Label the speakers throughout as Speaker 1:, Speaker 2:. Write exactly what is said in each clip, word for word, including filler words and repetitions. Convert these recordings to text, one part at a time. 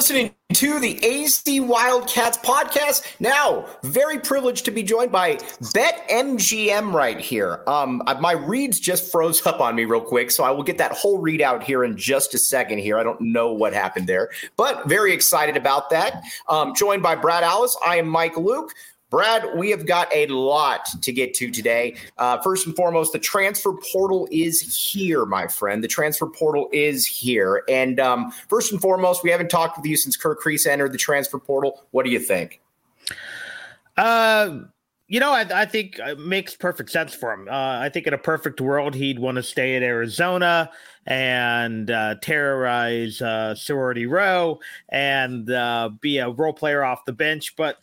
Speaker 1: listening to the A Z Wildcats podcast. Now, very privileged to be joined by BetMGM right here. Um, my reads just froze up on me real quick, so I will get that whole readout here in just a second here. I don't know what happened there, but very excited about that. Um, joined by Brad Alice, I am Mike Luke. Brad, we have got a lot to get to today. Uh, first and foremost, the transfer portal is here, my friend. The transfer portal is here. And um, first and foremost, we haven't talked with you since Kirk Kreis entered the transfer portal. What do you think?
Speaker 2: Uh, you know, I, I think it makes perfect sense for him. Uh, I think in a perfect world, he'd want to stay at Arizona and uh, terrorize uh, Sorority Row and uh, be a role player off the bench. But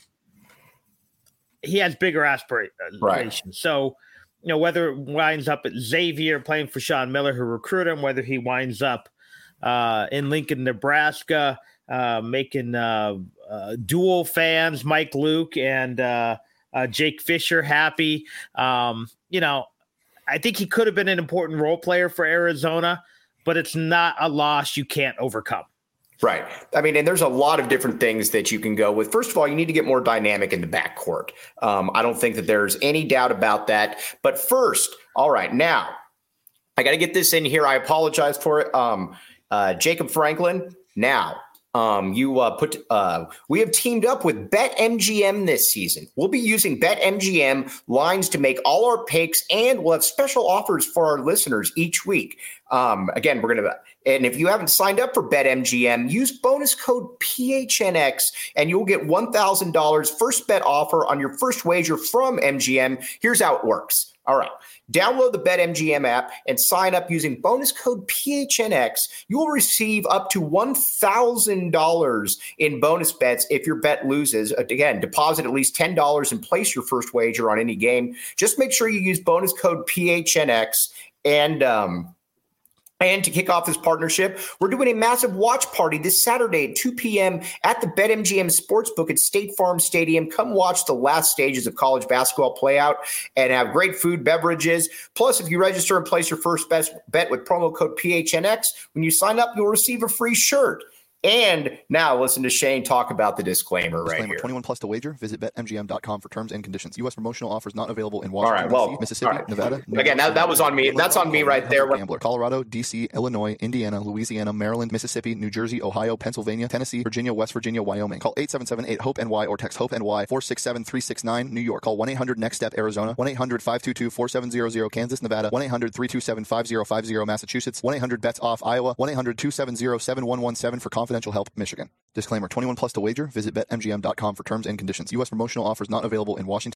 Speaker 2: he has bigger aspirations.
Speaker 1: Right.
Speaker 2: So, you know, whether it winds up at Xavier playing for Sean Miller, who recruited him, whether he winds up uh, in Lincoln, Nebraska, uh, making uh, uh, dual fans, Mike Luke and uh, uh, Jake Fisher, happy. Um, you know, I think he could have been an important role player for Arizona, but it's not a loss you can't overcome.
Speaker 1: Right. I mean, and there's a lot of different things that you can go with. First of all, you need to get more dynamic in the backcourt. Um, I don't think that there's any doubt about that. But first, all right, now I got to get this in here. I apologize for it. Um, uh, Jacob Franklin, now um, you uh, put uh, we have teamed up with BetMGM this season. We'll be using BetMGM lines to make all our picks, and we'll have special offers for our listeners each week. Um, again, we're going to And if you haven't signed up for BetMGM, use bonus code P H N X and you'll get one thousand dollars first bet offer on your first wager from M G M. Here's how it works. All right. Download the BetMGM app and sign up using bonus code P H N X. You will receive up to one thousand dollars in bonus bets if your bet loses. Again, deposit at least ten dollars and place your first wager on any game. Just make sure you use bonus code P H N X. And, um, And to kick off this partnership, we're doing a massive watch party this Saturday at two p.m. at the BetMGM Sportsbook at State Farm Stadium. Come watch the last stages of college basketball play out and have great food, beverages. Plus, if you register and place your first bet with promo code P H N X, when you sign up, you'll receive a free shirt. And now listen to Shane talk about the disclaimer, disclaimer right here.
Speaker 3: twenty-one plus to wager. Visit Bet M G M dot com for terms and conditions. U S promotional offers not available in Washington,
Speaker 1: all right, well,
Speaker 3: D C, Mississippi,
Speaker 1: right.
Speaker 3: Nevada. New
Speaker 1: Again, that, that was on me. That's on me right there.
Speaker 3: Gambler. Colorado, D C, Illinois, Indiana, Louisiana, Maryland, Mississippi, New Jersey, Ohio, Pennsylvania, Tennessee, Virginia, West Virginia, Wyoming. Call eight seven seven eight hope N Y or text HOPE-NY four six seven three six nine. New York. Call one eight hundred next step Arizona. one eight hundred five two two four seven zero zero. Kansas, Nevada. one eight hundred three two seven five zero five zero. Massachusetts. one eight hundred bets off Iowa. one eight hundred two seven zero seven one one seven for confidential help. Michigan. Disclaimer, twenty-one plus to wager. Visit Bet M G M dot com for terms and conditions. U S promotional offers not available in Washington.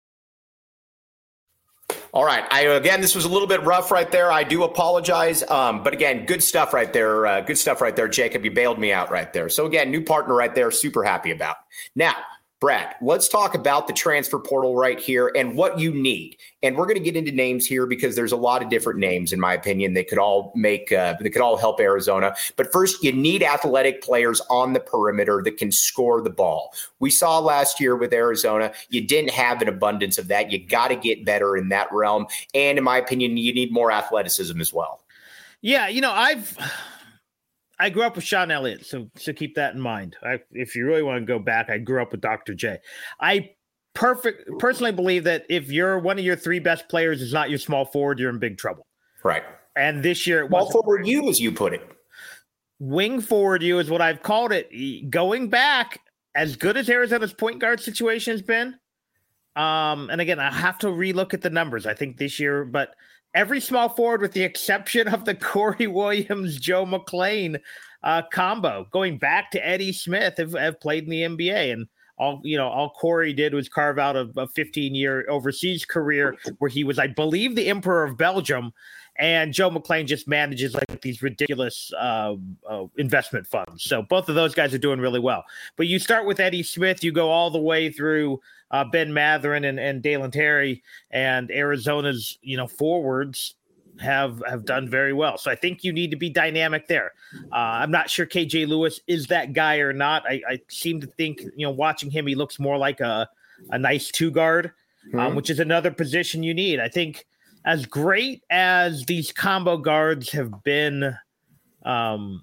Speaker 1: All right. I, again, this was a little bit rough right there. I do apologize. Um, but again, good stuff right there. Uh, good stuff right there, Jacob. You bailed me out right there. So again, new partner right there. Super happy about. Now, Brad, let's talk about the transfer portal right here and what you need. And we're going to get into names here because there's a lot of different names, in my opinion. They could all make, uh, they could all help Arizona. But first, you need athletic players on the perimeter that can score the ball. We saw last year with Arizona, you didn't have an abundance of that. You got to get better in that realm. And in my opinion, you need more athleticism as well.
Speaker 2: Yeah, you know, I've... I grew up with Sean Elliott, so so keep that in mind. I, if you really want to go back, I grew up with Doctor J. I perfect personally believe that if you're one of your three best players is not your small forward, you're in big trouble.
Speaker 1: Right.
Speaker 2: And this year, it
Speaker 1: small forward you, as you put it,
Speaker 2: wing forward you is what I've called it. Going back, as good as Arizona's point guard situation has been, um, and again, I have to relook at the numbers. I think this year, but. Every small forward, with the exception of the Corey Williams, Joe McClain uh, combo, going back to Eddie Smith, have, have played in the N B A. And all you know, all Corey did was carve out a, a fifteen-year overseas career where he was, I believe, the Emperor of Belgium. And Joe McClain just manages like these ridiculous uh, uh, investment funds. So both of those guys are doing really well. But you start with Eddie Smith, you go all the way through uh, Ben Mathurin and, and Dalen Terry, and Arizona's you know forwards have have done very well. So I think you need to be dynamic there. Uh, I'm not sure K J Lewis is that guy or not. I, I seem to think you know watching him, he looks more like a a nice two guard, mm-hmm. um, which is another position you need. I think. As great as these combo guards have been um,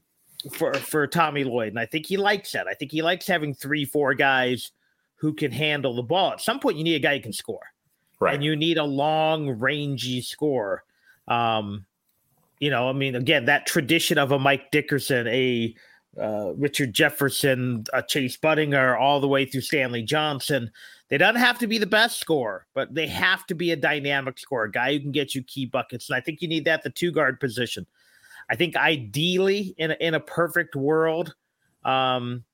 Speaker 2: for for Tommy Lloyd, and I think he likes that. I think he likes having three, four guys who can handle the ball. At some point, you need a guy who can score,
Speaker 1: right?
Speaker 2: And you need a long, rangy scorer. Um, you know, I mean, again, that tradition of a Mike Dickerson, a uh, Richard Jefferson, a Chase Budinger, all the way through Stanley Johnson. They don't have to be the best scorer, but they have to be a dynamic scorer, a guy who can get you key buckets. And I think you need that at the two guard position. I think ideally in a, in a perfect world, um,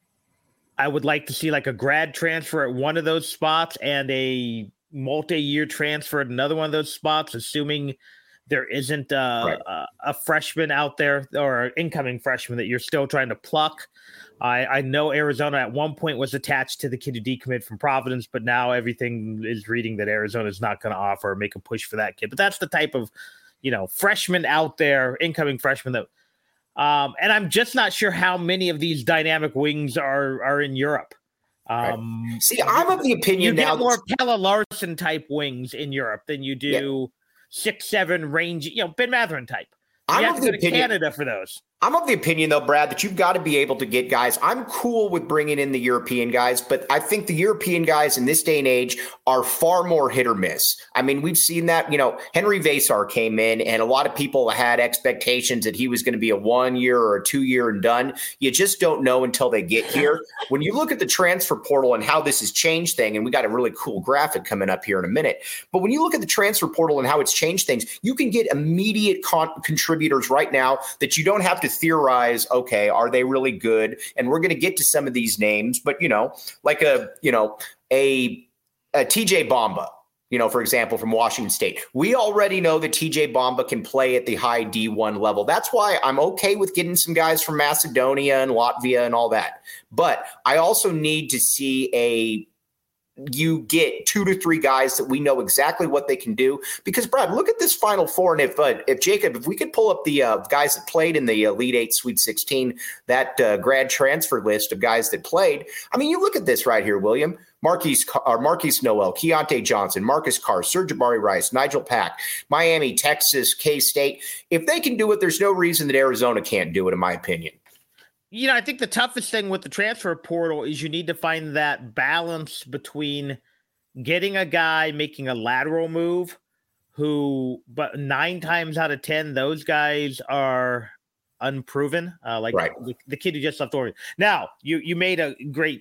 Speaker 2: I would like to see like a grad transfer at one of those spots and a multi-year transfer at another one of those spots, assuming there isn't uh,
Speaker 1: right.
Speaker 2: a, a freshman out there or an incoming freshman that you're still trying to pluck. I, I know Arizona at one point was attached to the kid who decommitted from Providence, but now everything is reading that Arizona is not going to offer or make a push for that kid. But that's the type of, you know, freshman out there, incoming freshman that, um, and I'm just not sure how many of these dynamic wings are are in Europe. Um,
Speaker 1: right. See, I'm of the opinion
Speaker 2: you
Speaker 1: now
Speaker 2: get more Pelle Larsson type wings in Europe than you do
Speaker 1: yeah.
Speaker 2: six, seven range, you know, Ben Mathurin type. You
Speaker 1: I'm
Speaker 2: have
Speaker 1: of
Speaker 2: to
Speaker 1: the
Speaker 2: go to
Speaker 1: opinion,
Speaker 2: Canada for those.
Speaker 1: I'm of the opinion, though, Brad, that you've got to be able to get guys. I'm cool with bringing in the European guys, but I think the European guys in this day and age are far more hit or miss. I mean, we've seen that, you know, Henry Vasar came in and a lot of people had expectations that he was going to be a one year or a two year and done. You just don't know until they get here. When you look at the transfer portal and how this has changed things, and we got a really cool graphic coming up here in a minute, but when you look at the transfer portal and how it's changed things, you can get immediate con- contributors right now that you don't have to theorize, okay, are they really good? And we're going to get to some of these names, but, you know, like a, you know, a, a T J Bamba, you know, for example, from Washington State. We already know that T J Bamba can play at the high D one level. That's why I'm okay with getting some guys from Macedonia and Latvia and all that. But I also need to see a you get two to three guys that we know exactly what they can do. Because, Brad, look at this Final Four. And if, uh, if Jacob, if we could pull up the uh, guys that played in the Elite Eight, Sweet sixteen, that uh, grad transfer list of guys that played. I mean, you look at this right here, William. Marquise, or Marquise Noel, Keontae Johnson, Marcus Carr, Serge Jabari Rice, Nigel Pack, Miami, Texas, K-State. If they can do it, there's no reason that Arizona can't do it, in my opinion.
Speaker 2: You know, I think the toughest thing with the transfer portal is you need to find that balance between getting a guy making a lateral move who, but nine times out of ten, those guys are unproven. Uh, like
Speaker 1: right.
Speaker 2: the, the kid who just left Oregon. Now, you you made a great,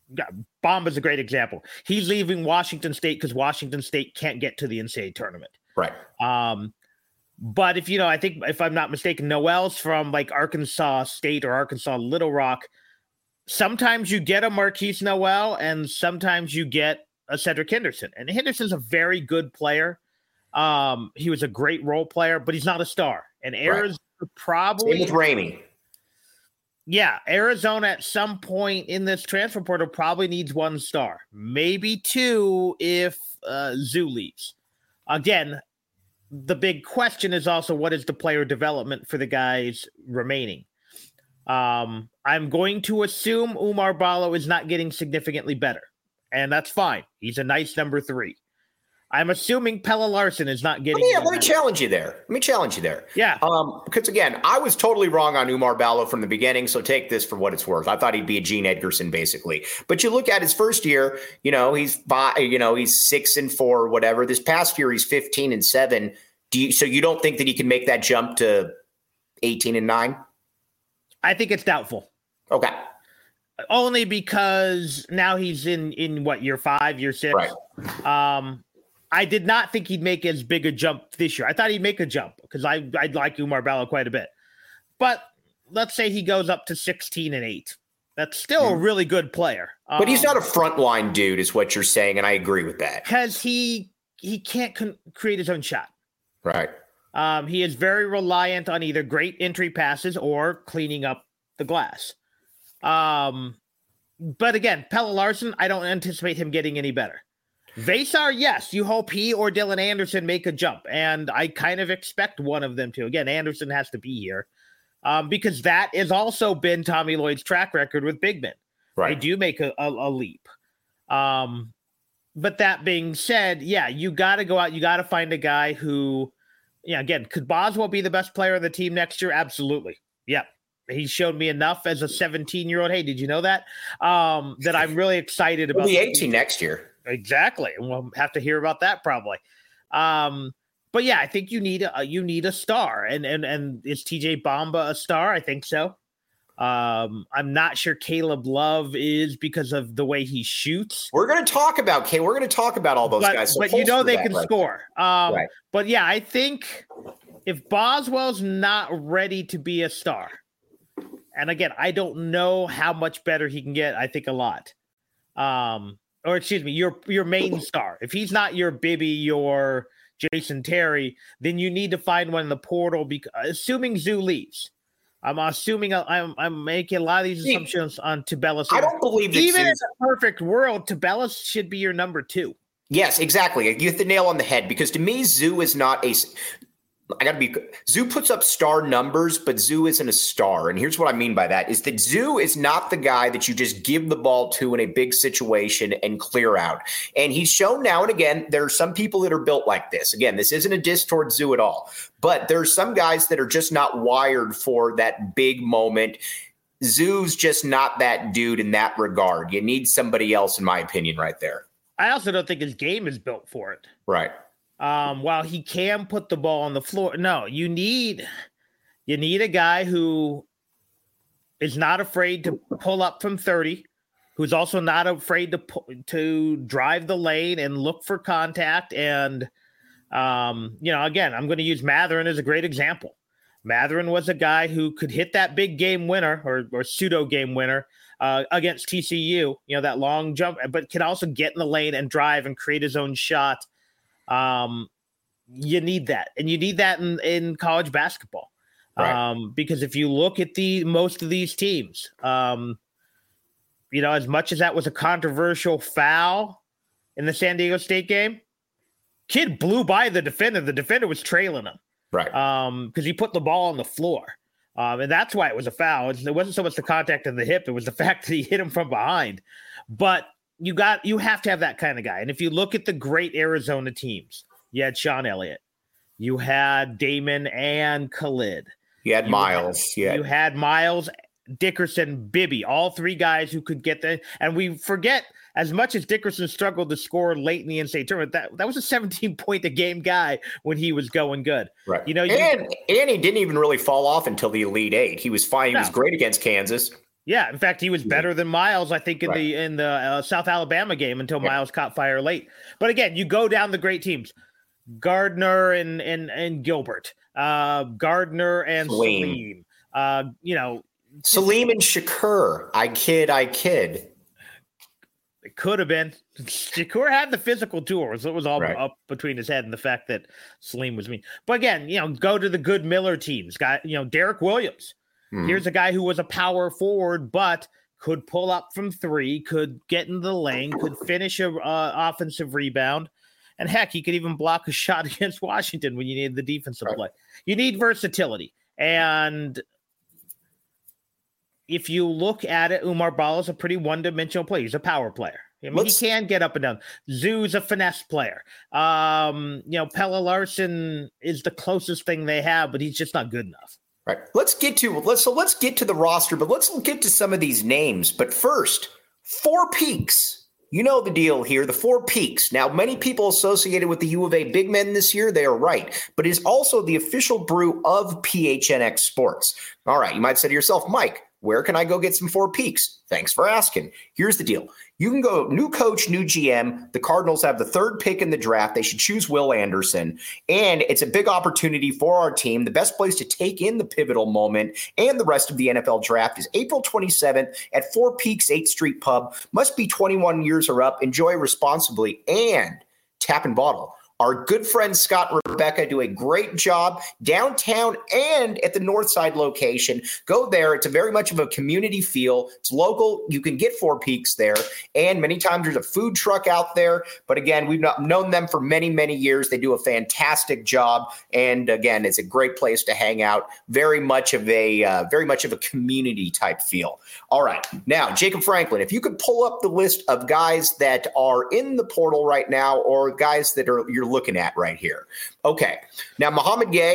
Speaker 2: Bomba's a great example. He's leaving Washington State because Washington State can't get to the N C double A tournament.
Speaker 1: Right.
Speaker 2: Um, But if, you know, I think if I'm not mistaken, Noel's from like Arkansas State or Arkansas Little Rock. Sometimes you get a Marquise Noel and sometimes you get a Cedric Henderson. And Henderson's a very good player. Um, he was a great role player, but he's not a star. And Arizona right. probably.
Speaker 1: Same with Ramey.
Speaker 2: Yeah, Arizona at some point in this transfer portal probably needs one star, maybe two if uh, Zoo leaves. Again, the big question is also what is the player development for the guys remaining? Um, I'm going to assume Umar Ballo is not getting significantly better, and that's fine. He's a nice number three. I'm assuming Pelle Larsson is not getting.
Speaker 1: Let me, let me challenge you there. Let me challenge you there.
Speaker 2: Yeah.
Speaker 1: Um, because again, I was totally wrong on Umar Ballo from the beginning. So take this for what it's worth. I thought he'd be a Gene Edgerson, basically. But you look at his first year. You know, he's five, you know he's six and four, or whatever. This past year, he's fifteen and seven. Do you, so you don't think that he can make that jump to eighteen and nine?
Speaker 2: I think it's doubtful.
Speaker 1: Okay.
Speaker 2: Only because now he's in in what year five, year six.
Speaker 1: Right.
Speaker 2: Um. I did not think he'd make as big a jump this year. I thought he'd make a jump because I I like Umar Ballo quite a bit. But let's say he goes up to sixteen and eight. That's still mm. a really good player.
Speaker 1: But um, he's not a frontline dude, is what you're saying, and I agree with that.
Speaker 2: Because he he can't con- create his own shot.
Speaker 1: Right.
Speaker 2: Um, he is very reliant on either great entry passes or cleaning up the glass. Um, but again, Pelle Larsson, I don't anticipate him getting any better. Vasar, yes, you hope he or Dylan Anderson make a jump, and I kind of expect one of them to. Again, Anderson has to be here um, because that has also been Tommy Lloyd's track record with big men. Right. They do make a, a, a leap. Um, but that being said, yeah, you got to go out. You got to find a guy who, yeah, again, could Boswell be the best player on the team next year? Absolutely. Yeah. he showed me enough as a seventeen year old. Hey, did you know that? Um, that I'm really excited about.
Speaker 1: He'll be eighteen next year.
Speaker 2: Exactly. And we'll have to hear about that probably. Um, but yeah, I think you need a, you need a star. And, and, and is T J Bamba a star? I think so. Um, I'm not sure Caleb Love is because of the way he shoots.
Speaker 1: We're going to talk about K. We're going to talk about all those
Speaker 2: but,
Speaker 1: guys. So
Speaker 2: but you know they
Speaker 1: that,
Speaker 2: can
Speaker 1: right?
Speaker 2: score. Um,
Speaker 1: right.
Speaker 2: But yeah, I think if Boswell's not ready to be a star, and again, I don't know how much better he can get. I think a lot. Um, or excuse me, your your main star. If he's not your Bibby, your Jason Terry, then you need to find one in the portal. Because assuming Zoo leaves. I'm assuming I'm, I'm making a lot of these assumptions on Tubelis.
Speaker 1: I don't believe that
Speaker 2: even
Speaker 1: Zeus,
Speaker 2: in a perfect world, Tubelis should be your number two.
Speaker 1: Yes, exactly. You hit the nail on the head because to me, Zoo is not a. I got to be. Zoo puts up star numbers, but Zoo isn't a star. And here's what I mean by that: is that Zoo is not the guy that you just give the ball to in a big situation and clear out. And he's shown now and again there are some people that are built like this. Again, this isn't a diss towards Zoo at all, but there's some guys that are just not wired for that big moment. Zoo's just not that dude in that regard. You need somebody else, in my opinion, right there.
Speaker 2: I also don't think his game is built for it.
Speaker 1: Right.
Speaker 2: Um, while he can put the ball on the floor, no, you need you need a guy who is not afraid to pull up from thirty, who's also not afraid to pu- to drive the lane and look for contact. And um, you know, again, I'm going to use Matherin as a great example. Matherin was a guy who could hit that big game winner or, or pseudo game winner uh, against T C U. You know, that long jump, but can also get in the lane and drive and create his own shot. Um, you need that, and you need that in, in college basketball. Right. Um, because if you look at the most of these teams, um, you know, as much as that was a controversial foul in the San Diego State game, kid blew by the defender. The defender was trailing him,
Speaker 1: right?
Speaker 2: Um, because he put the ball on the floor, um, and that's why it was a foul. It wasn't so much the contact of the hip; it was the fact that he hit him from behind. But You got you have to have that kind of guy. And if you look at the great Arizona teams, you had Sean Elliott, you had Damon and Khalid.
Speaker 1: You had
Speaker 2: you
Speaker 1: Miles.
Speaker 2: Had,
Speaker 1: you, had-
Speaker 2: you had Miles, Dickerson, Bibby, all three guys who could get the and we forget as much as Dickerson struggled to score late in the N C double A tournament, that, that was a seventeen point a game guy when he was going good.
Speaker 1: Right.
Speaker 2: You know,
Speaker 1: and,
Speaker 2: you,
Speaker 1: and he didn't even really fall off until the Elite Eight. He was fine. He no. was great against Kansas.
Speaker 2: Yeah, in fact, he was better than Miles, I think, in right. the in the uh, South Alabama game until yeah. Miles caught fire late. But again, you go down the great teams: Gardner and and and Gilbert, uh, Gardner and Salim. Salim. Uh, you know,
Speaker 1: Salim and Shakur. I kid, I kid.
Speaker 2: It could have been. Shakur had the physical tools. It was all right. up between his head and the fact that Salim was mean. But again, you know, go to the good Miller teams. Got you know, Derek Williams. Mm-hmm. Here's a guy who was a power forward, but could pull up from three, could get into the lane, could finish a uh, offensive rebound, and heck, he could even block a shot against Washington when you need the defensive right. play. You need versatility, and if you look at it, Oumar Ballo is a pretty one-dimensional player. He's a power player. I mean, Let's, he can get up and down. Zoo's a finesse player. Um, you know, Pelle Larsson is the closest thing they have, but he's just not good enough.
Speaker 1: Right. Let's get to let's so let's get to the roster, but let's get to some of these names. But first, Four Peaks. You know the deal here, the Four Peaks. Now, many people associated with the U of A big men this year, they are right, but it is also the official brew of P H N X Sports. All right, you might say to yourself, Mike, where can I go get some Four Peaks? Thanks for asking. Here's the deal. You can go new coach, new G M. The Cardinals have the third pick in the draft. They should choose Will Anderson. And it's a big opportunity for our team. The best place to take in the pivotal moment and the rest of the N F L draft is April twenty-seventh at Four Peaks eighth Street Pub. Must be twenty-one years or up. Enjoy responsibly and tap and bottle. Our good friends Scott and Rebecca do a great job downtown and at the Northside location. Go there. It's a very much of a community feel. It's local. You can get Four Peaks there. And many times there's a food truck out there. But again, we've not known them for many, many years. They do a fantastic job. And again, it's a great place to hang out. Very much of a uh, very much of a community type feel. All right. Now, Jacob Franklin, if you could pull up the list of guys that are in the portal right now or guys that are you're looking at right here. Okay. Now, Muhammad Gay,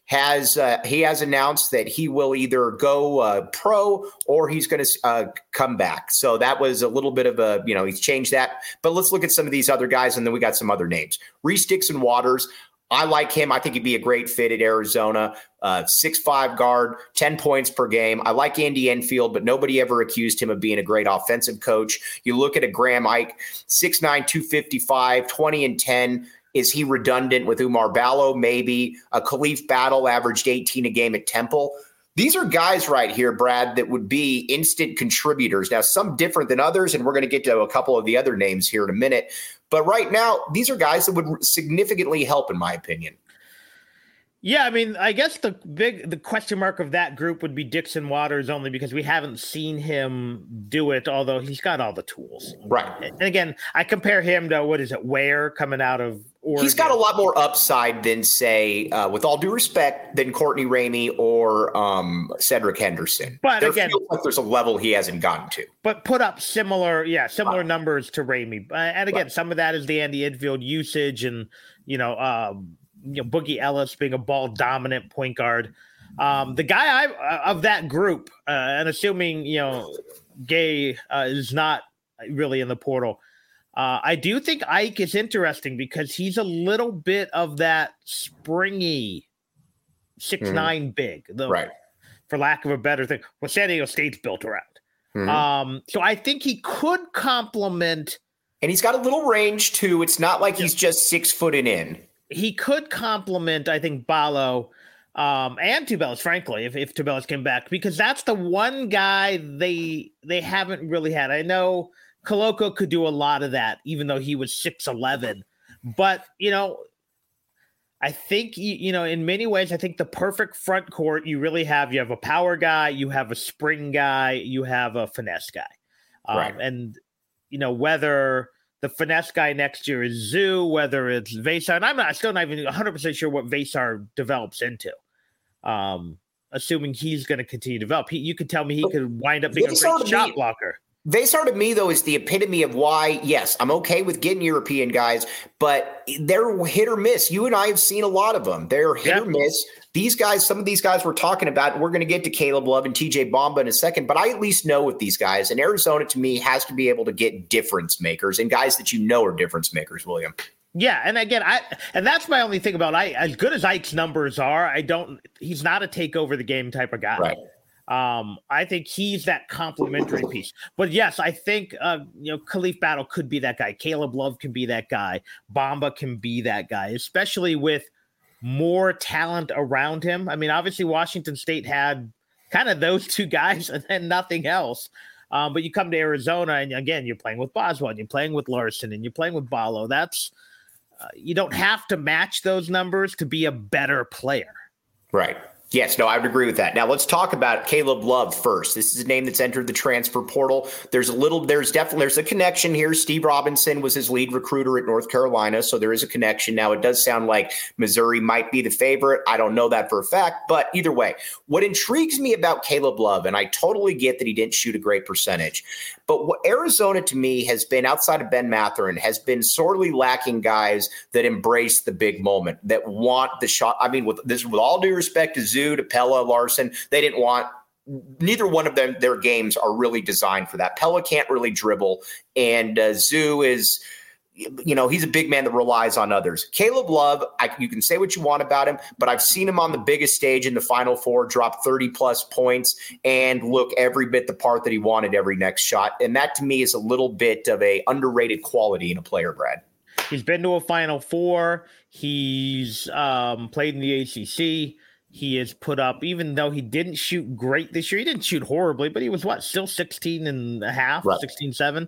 Speaker 1: has uh, he has announced that he will either go uh, pro or he's going to uh, come back. So that was a little bit of a, you know, he's changed that. But let's look at some of these other guys, and then we got some other names. Reese Dixon Waters. I like him. I think he'd be a great fit at Arizona. Uh, six five guard, ten points per game. I like Andy Enfield, but nobody ever accused him of being a great offensive coach. You look at a Graham Ike, six nine, two fifty-five, twenty and ten. Is he redundant with Umar Ballo? Maybe. A Khalif Battle averaged eighteen a game at Temple. These are guys right here, Brad, that would be instant contributors. Now, some different than others, and we're going to get to a couple of the other names here in a minute. But right now, these are guys that would significantly help, in my opinion.
Speaker 2: Yeah, I mean, I guess the big the question mark of that group would be Dixon Waters, only because we haven't seen him do it, although he's got all the tools.
Speaker 1: Right.
Speaker 2: And again, I compare him to, what is it, Ware coming out of Oregon.
Speaker 1: He's got a lot more upside than, say, uh, with all due respect, than Courtney Ramey or um, Cedric Henderson.
Speaker 2: But
Speaker 1: there
Speaker 2: again,
Speaker 1: feels like there's a level he hasn't gotten to.
Speaker 2: But put up similar, yeah, similar
Speaker 1: right.
Speaker 2: numbers to Ramey. Uh, and again,
Speaker 1: right.
Speaker 2: some of that is the Andy Enfield usage and, you know, um, you know, Boogie Ellis being a ball dominant point guard. Um, the guy I uh, of that group, uh, and assuming, you know, Gay uh, is not really in the portal, uh, I do think Ike is interesting because he's a little bit of that springy six
Speaker 1: mm-hmm.
Speaker 2: nine big, the,
Speaker 1: right?
Speaker 2: For lack of a better thing, what San Diego State's built around.
Speaker 1: Mm-hmm.
Speaker 2: Um, so I think he could complement,
Speaker 1: and he's got a little range too. It's not like he's just six foot and in.
Speaker 2: He could complement, I think, Ballo um, and Tubelis, frankly, if, if Tubelis came back, because that's the one guy they they haven't really had. I know Koloko could do a lot of that, even though he was six eleven. But, you know, I think, you, you know, in many ways, I think the perfect front court you really have, you have a power guy, you have a spring guy, you have a finesse guy. Um,
Speaker 1: right.
Speaker 2: And, you know, whether the finesse guy next year is Zoo, whether it's Vesar, and I'm not still not even one hundred percent sure what Vesar develops into. Um, assuming he's going to continue to develop, he, you could tell me he could wind up being Vesar a great shot me, blocker.
Speaker 1: Vesar to me, though, is the epitome of why, yes, I'm okay with getting European guys, but they're hit or miss. You and I have seen a lot of them. They're hit yep. or miss. These guys, some of these guys we're talking about, we're going to get to Caleb Love and T J Bamba in a second, but I at least know with these guys. And Arizona, to me, has to be able to get difference makers and guys that you know are difference makers, William.
Speaker 2: Yeah, and again, I and that's my only thing about Ike. As good as Ike's numbers are, I don't. He's not a take over the game type of guy.
Speaker 1: Right.
Speaker 2: Um, I think he's that complementary piece. But yes, I think uh, you know, Khalif Battle could be that guy. Caleb Love can be that guy. Bamba can be that guy, especially with more talent around him. I mean, obviously Washington State had kind of those two guys and then nothing else. Um, but you come to Arizona and again, you're playing with Boswell, and you're playing with Larson, and you're playing with Ballo. That's uh, you don't have to match those numbers to be a better player.
Speaker 1: Right. Yes, no, I would agree with that. Now let's talk about Caleb Love first. This is a name that's entered the transfer portal. There's a little, there's definitely, there's a connection here. Steve Robinson was his lead recruiter at North Carolina, so there is a connection. Now it does sound like Missouri might be the favorite. I don't know that for a fact, but either way, what intrigues me about Caleb Love, and I totally get that he didn't shoot a great percentage, but what Arizona to me has been, outside of Ben Mathurin, has been sorely lacking guys that embrace the big moment, that want the shot. I mean, with this, with all due respect to Zoo, to Pella, Larson, they didn't want, neither one of them, their games are really designed for that. Pella can't really dribble, and uh, Zoo is, you know, he's a big man that relies on others. Caleb Love, I, you can say what you want about him, but I've seen him on the biggest stage in the Final Four, drop thirty plus points and look every bit the part that he wanted every next shot. And that to me is a little bit of a underrated quality in a player, Brad.
Speaker 2: He's been to a Final Four. He's um, played in the A C C. He has put up, even though he didn't shoot great this year, he didn't shoot horribly, but he was what, still sixteen and a half,
Speaker 1: right.
Speaker 2: sixteen seven.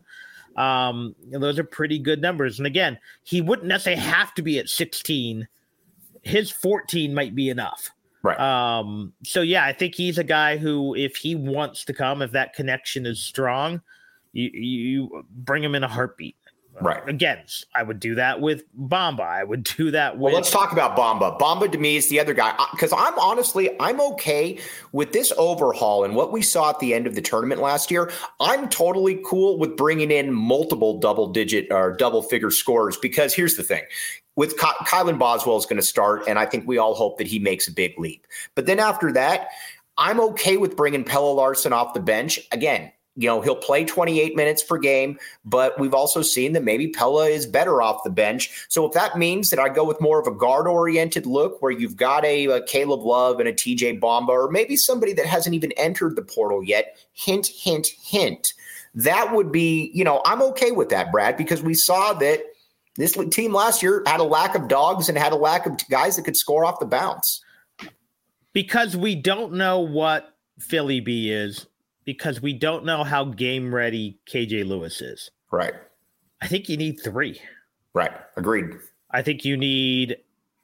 Speaker 2: Um, those are pretty good numbers. And again, he wouldn't necessarily have to be at sixteen. His fourteen might be enough.
Speaker 1: Right.
Speaker 2: Um, so yeah, I think he's a guy who, if he wants to come, if that connection is strong, you, you bring him in a heartbeat.
Speaker 1: Right.
Speaker 2: Again, I would do that with Bamba. I would do that with.
Speaker 1: Well, let's talk about Bamba. Bamba to me is the other guy, because I'm honestly, I'm okay with this overhaul and what we saw at the end of the tournament last year. I'm totally cool with bringing in multiple double digit or double figure scorers, because here's the thing. with Ky- Kylan Boswell is going to start, and I think we all hope that he makes a big leap. But then after that, I'm okay with bringing Pelle Larsson off the bench. Again, you know, he'll play twenty-eight minutes per game, but we've also seen that maybe Pelle is better off the bench. So if that means that I go with more of a guard-oriented look where you've got a, a Caleb Love and a T J Bamba, or maybe somebody that hasn't even entered the portal yet, hint, hint, hint, that would be, you know, I'm okay with that, Brad, because we saw that this team last year had a lack of dogs and had a lack of guys that could score off the bounce.
Speaker 2: Because we don't know what Philly B is, because we don't know how game ready K J Lewis is.
Speaker 1: Right.
Speaker 2: I think you need three.
Speaker 1: Right. Agreed.
Speaker 2: I think you need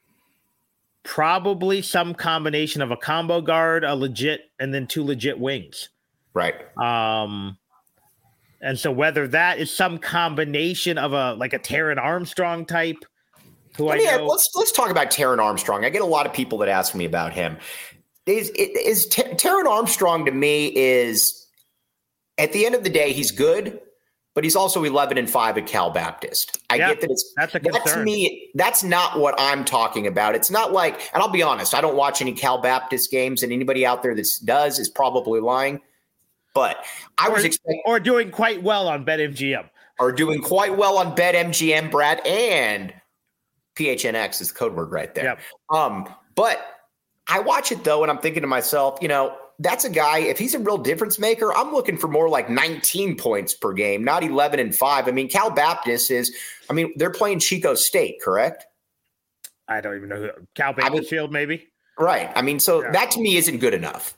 Speaker 2: probably some combination of a combo guard, a legit, and then two legit wings.
Speaker 1: Right.
Speaker 2: Um, And so whether that is some combination of a like a Taron Armstrong type, who I,
Speaker 1: I mean,
Speaker 2: know,
Speaker 1: let's let's talk about Taron Armstrong. I get a lot of people that ask me about him. Is is Taron Armstrong to me is at the end of the day he's good, but he's also eleven and five at Cal Baptist. I
Speaker 2: yeah,
Speaker 1: get that it's
Speaker 2: that's a concern.
Speaker 1: That to me, that's not what I'm talking about. It's not like, and I'll be honest, I don't watch any Cal Baptist games, and anybody out there that does is probably lying. But I
Speaker 2: or,
Speaker 1: was expecting,
Speaker 2: or doing quite well on BetMGM,
Speaker 1: or doing quite well on BetMGM, Brad, and P H N X is the code word right there.
Speaker 2: Yep.
Speaker 1: Um, but I watch it though, and I'm thinking to myself, you know, that's a guy. If he's a real difference maker, I'm looking for more like nineteen points per game, not eleven and five. I mean, Cal Baptist is. I mean, they're playing Chico State, correct?
Speaker 2: I don't even know who Cal Bakersfield, I mean, maybe.
Speaker 1: Right. I mean, so
Speaker 2: yeah.
Speaker 1: that to me isn't good enough.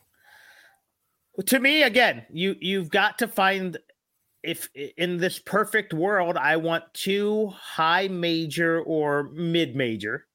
Speaker 2: To me, again, you you've got to find, if in this perfect world, I want two high major or mid major,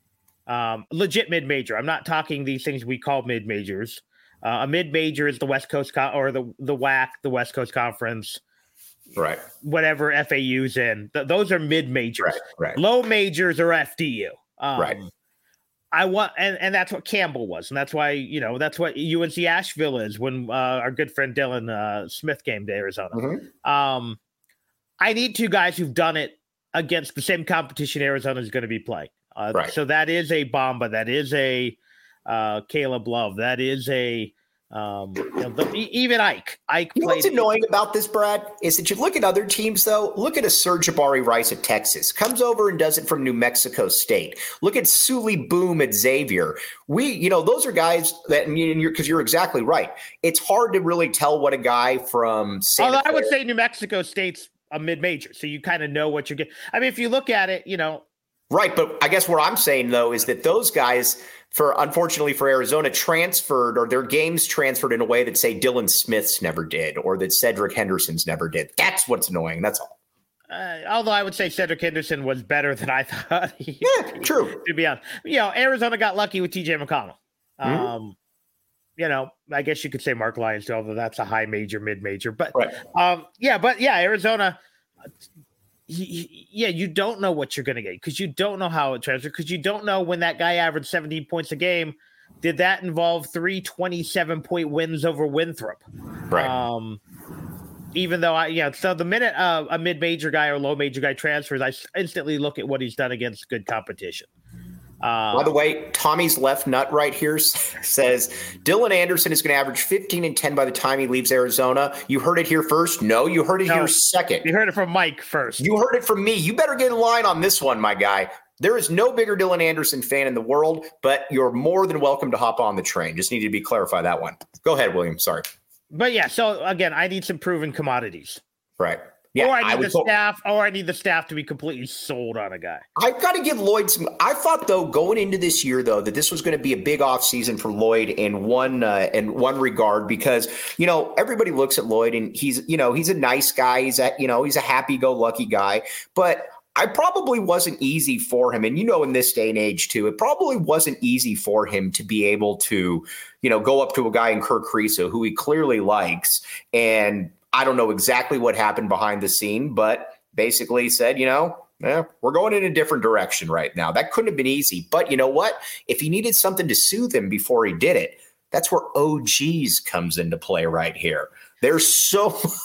Speaker 2: um, legit mid major. I'm not talking these things we call mid majors. Uh, a mid major is the West Coast Co- or the the W A C, the West Coast Conference,
Speaker 1: right?
Speaker 2: Whatever F A U's in, Th- those are mid majors.
Speaker 1: Right, right.
Speaker 2: Low majors are F D U. Um,
Speaker 1: right.
Speaker 2: I want, and, and that's what Campbell was. And that's why, you know, that's what U N C Asheville is when uh, our good friend Dylan uh, Smith came to Arizona.
Speaker 1: Mm-hmm.
Speaker 2: Um, I need two guys who've done it against the same competition Arizona is going to be playing. Uh,
Speaker 1: right.
Speaker 2: So that is a Bamba. That is a uh, Caleb Love. That is a, um, you know, the, even Ike. Ike
Speaker 1: you know
Speaker 2: played.
Speaker 1: What's annoying about this, Brad, is that you look at other teams, though. Look at a Serge Jabari Rice at Texas. Comes over and does it from New Mexico State. Look at Sully Boom at Xavier. We, you know, those are guys that, I mean, you're, because you're exactly right. It's hard to really tell what a guy from Santa
Speaker 2: Although I would
Speaker 1: Clara-
Speaker 2: say New Mexico State's a mid-major, so you kind of know what you're getting. I mean, if you look at it, you know.
Speaker 1: Right, but I guess what I'm saying, though, is that those guys, for unfortunately for Arizona, transferred, or their games transferred in a way that, say, Dylan Smith's never did, or that Cedric Henderson's never did. That's what's annoying. That's all.
Speaker 2: Uh, although I would say Cedric Henderson was better than I thought. He,
Speaker 1: yeah, true.
Speaker 2: To be honest, you know, Arizona got lucky with T J McConnell.
Speaker 1: Mm-hmm.
Speaker 2: Um, you know, I guess you could say Mark Lyons too, although that's a high major, mid major. But
Speaker 1: right.
Speaker 2: um, yeah, but yeah, Arizona. Yeah, you don't know what you're going to get because you don't know how it transfers, because you don't know when that guy averaged seventeen points a game. Did that involve three twenty-seven point wins over Winthrop?
Speaker 1: Right.
Speaker 2: Um, even though I, yeah, so the minute uh, a mid major guy or low major guy transfers, I instantly look at what he's done against good competition. Uh,
Speaker 1: By the way, Tommy's left nut right here says Dylan Anderson is going to average fifteen and ten by the time he leaves Arizona. You heard it here first. No, you heard it
Speaker 2: no,
Speaker 1: here second.
Speaker 2: You heard it from Mike first.
Speaker 1: You heard it from me. You better get in line on this one, my guy. There is no bigger Dylan Anderson fan in the world, but you're more than welcome to hop on the train. Just needed to be clarify that one. Go ahead, William. Sorry.
Speaker 2: But yeah, so again, I need some proven commodities.
Speaker 1: Right. Yeah,
Speaker 2: or I need
Speaker 1: I
Speaker 2: the staff, or I need the staff to be completely sold on a guy.
Speaker 1: I've got to give Lloyd some. I thought though, going into this year though, that this was going to be a big offseason for Lloyd in one uh, in one regard, because you know everybody looks at Lloyd and he's you know he's a nice guy. He's a you know he's a happy-go-lucky guy, but I probably wasn't easy for him. And you know, in this day and age too, it probably wasn't easy for him to be able to you know go up to a guy in Kirk Kriisa who he clearly likes and. I don't know exactly what happened behind the scene, but basically said, you know, eh, we're going in a different direction right now. That couldn't have been easy. But you know what? If he needed something to soothe him before he did it, that's where O Gs comes into play right here. There's so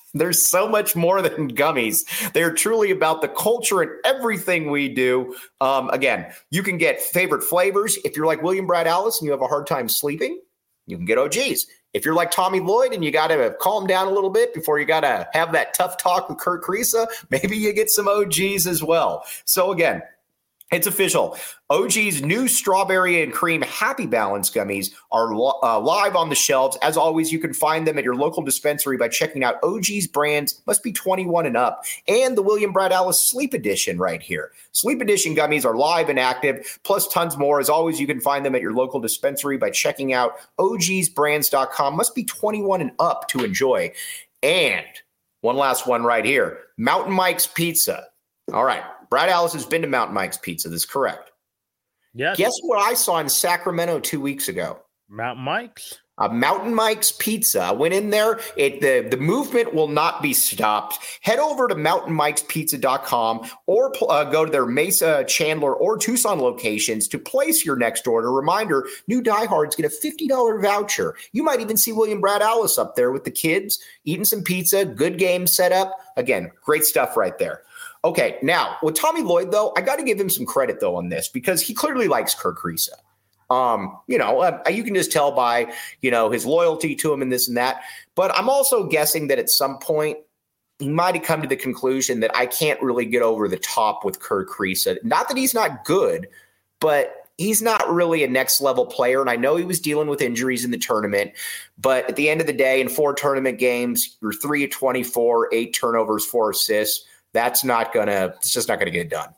Speaker 1: There's so much more than gummies. They're truly about the culture and everything we do. Um, again, you can get favorite flavors. If you're like William Brad Alice and you have a hard time sleeping, you can get O Gs. If you're like Tommy Lloyd and you got to calm down a little bit before you got to have that tough talk with Kurt Kriisa, maybe you get some O Gs as well. So again, it's official. O G's new strawberry and cream Happy Balance gummies are uh, live on the shelves. As always, you can find them at your local dispensary by checking out O G's brands, must be twenty-one and up, and the William Brad Alice Sleep Edition right here. Sleep Edition gummies are live and active, plus tons more. As always, you can find them at your local dispensary by checking out O Gs brands dot com. Must be twenty-one and up to enjoy. And one last one right here, Mountain Mike's Pizza. All right. Brad Alice has been to Mountain Mike's Pizza. This is correct.
Speaker 2: Yes.
Speaker 1: Guess what I saw in Sacramento two weeks ago?
Speaker 2: Mountain Mike's.
Speaker 1: A Mountain Mike's Pizza. I went in there. It the, the movement will not be stopped. Head over to mountain mikes pizza dot com or uh, go to their Mesa, Chandler, or Tucson locations to place your next order. Reminder, new diehards get a fifty dollars voucher. You might even see William Brad Alice up there with the kids eating some pizza. Good game set up. Again, great stuff right there. Okay, now with Tommy Lloyd, though, I got to give him some credit, though, on this because he clearly likes Kurt Kriisa. Um, you know, uh, you can just tell by, you know, his loyalty to him and this and that. But I'm also guessing that at some point he might have come to the conclusion that I can't really get over the top with Kurt Kriisa. Not that he's not good, but he's not really a next level player. And I know he was dealing with injuries in the tournament, but at the end of the day, in four tournament games, you're three of twenty-four, eight turnovers, four assists. That's not gonna, it's just not gonna get it done.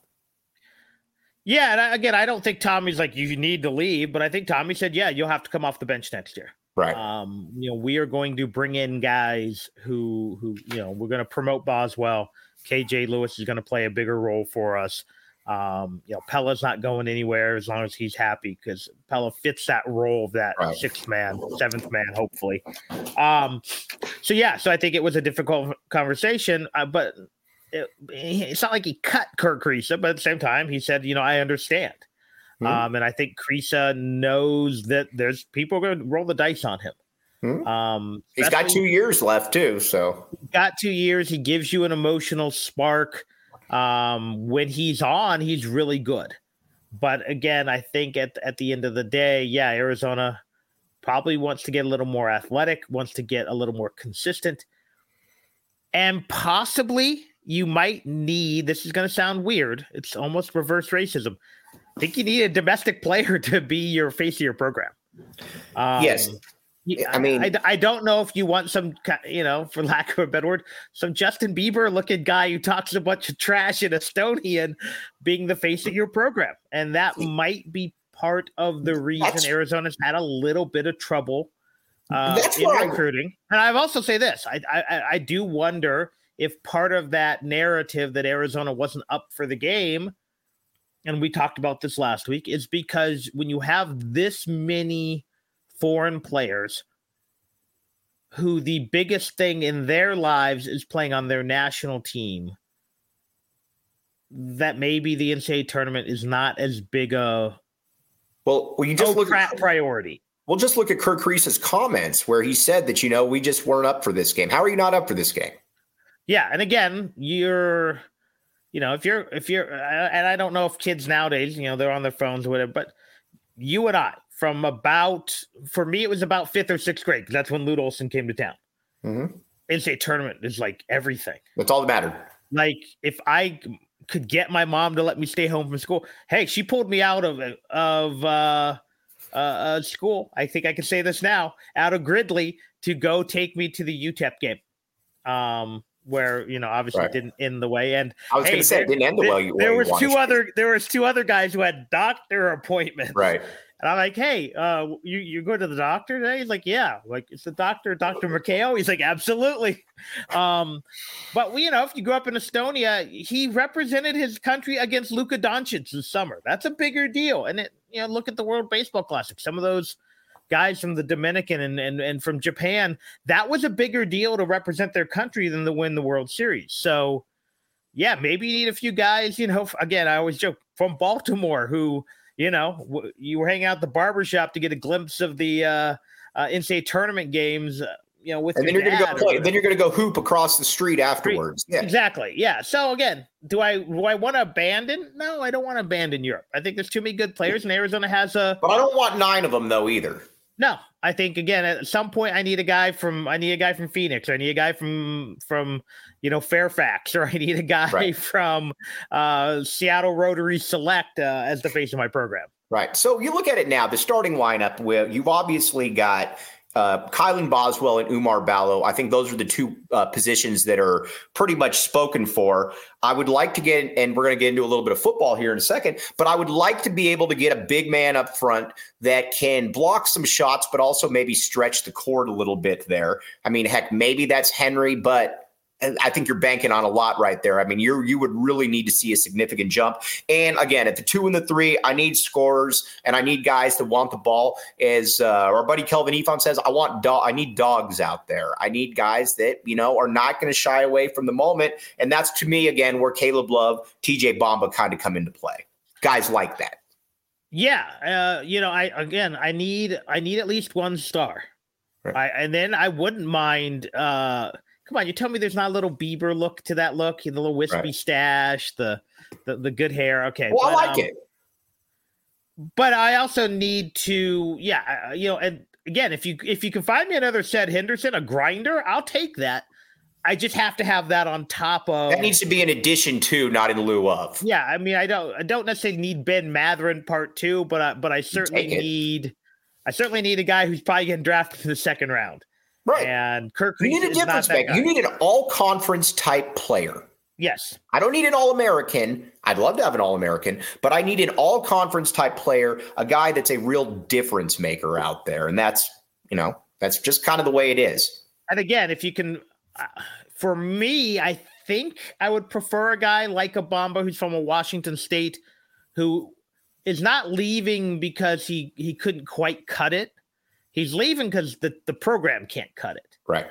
Speaker 2: Yeah, and I, again, I don't think Tommy's like, you need to leave, but I think Tommy said, yeah, you'll have to come off the bench next year.
Speaker 1: Right.
Speaker 2: Um, you know, we are going to bring in guys who, who, you know, we're going to promote Boswell. K J Lewis is going to play a bigger role for us. Um, you know, Pella's not going anywhere as long as he's happy because Pella fits that role of that right. sixth man, seventh man, hopefully. Um, so, yeah, so I think it was a difficult conversation, uh, but It, it's not like he cut Kurt Kriisa, but at the same time, he said, you know, I understand. Mm-hmm. Um, and I think Kriisa knows that there's people going to roll the dice on him. Mm-hmm. Um,
Speaker 1: He's got two years left, too. So,
Speaker 2: got two years. He gives you an emotional spark. Um, when he's on, he's really good. But again, I think at, at the end of the day, yeah, Arizona probably wants to get a little more athletic, wants to get a little more consistent, and possibly. You might need, this is going to sound weird. It's almost reverse racism. I think you need a domestic player to be your face of your program. Um,
Speaker 1: yes. I mean,
Speaker 2: I, I, I don't know if you want some, you know, for lack of a better word, some Justin Bieber looking guy who talks a bunch of trash in Estonian being the face of your program. And that might be part of the reason Arizona's had a little bit of trouble uh, in recruiting. I, and I've also say this, I, I, I do wonder if part of that narrative that Arizona wasn't up for the game, and we talked about this last week, is because when you have this many foreign players who the biggest thing in their lives is playing on their national team, that maybe the N C double A tournament is not as big a
Speaker 1: well, well you just
Speaker 2: oh,
Speaker 1: look
Speaker 2: crap
Speaker 1: at
Speaker 2: priority.
Speaker 1: Well, just look at Kurt Kriisa's comments where he said that, you know, we just weren't up for this game. How are you not up for this game?
Speaker 2: Yeah, and again, you're, you know, if you're, if you're, and I don't know if kids nowadays, you know, they're on their phones or whatever, but you and I, from about, for me, it was about fifth or sixth grade, because that's when Lute Olson came to town. Mm-hmm. N C double A tournament is like everything.
Speaker 1: That's all that mattered.
Speaker 2: Like, if I could get my mom to let me stay home from school, hey, she pulled me out of, of uh, uh, uh, school. I think I can say this now, out of Gridley to go take me to the U T E P game. Um, where, you know, obviously right. didn't end the way. And
Speaker 1: I was hey, going to say there, it didn't end the way.
Speaker 2: There, there was two other, there was two other guys who had doctor appointments.
Speaker 1: Right.
Speaker 2: And I'm like, hey, uh, you, you go to the doctor today? He's like, yeah. Like, it's the doctor, Doctor McHale? He's like, absolutely. Um, but, you know, if you grew up in Estonia, he represented his country against Luka Doncic this summer. That's a bigger deal. And, it, you know, look at the World Baseball Classic. Some of those guys from the Dominican and, and, and from Japan, that was a bigger deal to represent their country than to win the World Series. So, yeah, maybe you need a few guys, you know, again, I always joke, from Baltimore who, you know, w- you were hanging out at the barbershop to get a glimpse of the uh, uh, N C double A tournament games, uh, you know, with
Speaker 1: and then
Speaker 2: your
Speaker 1: you're going to go play.
Speaker 2: Or,
Speaker 1: then you're going to go hoop across the street afterwards. Yeah.
Speaker 2: Exactly. Yeah. So again, do I do I want to abandon? No, I don't want to abandon Europe. I think there's too many good players, and Arizona has a.
Speaker 1: But I don't want nine of them though either.
Speaker 2: No, I think again at some point I need a guy from I need a guy from Phoenix, or I need a guy from from you know Fairfax, or I need a guy right. from uh, Seattle Rotary Select uh, as the face of my program.
Speaker 1: Right. So you look at it now, the starting lineup where you've obviously got uh, Kylan Boswell and Umar Ballo. I think those are the two uh, positions that are pretty much spoken for. I would like to get, and we're going to get into a little bit of football here in a second, but I would like to be able to get a big man up front that can block some shots, but also maybe stretch the court a little bit there. I mean, heck, maybe that's Henry, but I think you're banking on a lot right there. I mean, you you would really need to see a significant jump. And again, at the two and the three, I need scorers and I need guys that want the ball. As uh, our buddy Kelvin Efon says, I want do- I need dogs out there. I need guys that, you know, are not going to shy away from the moment. And that's, to me, again, where Caleb Love, T J Bamba kind of come into play. Guys like that.
Speaker 2: Yeah, uh, you know, I again, I need I need at least one star. Right. I, and then I wouldn't mind uh, – come on, you tell me there's not a little Bieber look to that look, the little wispy right. stash, the, the the good hair. Okay.
Speaker 1: Well,
Speaker 2: but,
Speaker 1: I like
Speaker 2: um,
Speaker 1: it.
Speaker 2: But I also need to, yeah, you know, and again, if you if you can find me another Seth Henderson, a grinder, I'll take that. I just have to have that on top of.
Speaker 1: That needs to be in addition to, not in lieu of.
Speaker 2: Yeah, I mean, I don't I don't necessarily need Ben Mathurin part two, but I, but I certainly need I certainly need a guy who's probably getting drafted in the second round.
Speaker 1: Right.
Speaker 2: And Kirk
Speaker 1: You need a difference maker. You need an all-conference type player.
Speaker 2: Yes.
Speaker 1: I don't need an all-American. I'd love to have an all-American, but I need an all-conference type player, a guy that's a real difference maker out there. And that's, you know, that's just kind of the way it is.
Speaker 2: And again, if you can, uh, for me, I think I would prefer a guy like a Bamba who's from a Washington State who is not leaving because he, he couldn't quite cut it. He's leaving because the, the program can't cut it.
Speaker 1: Right.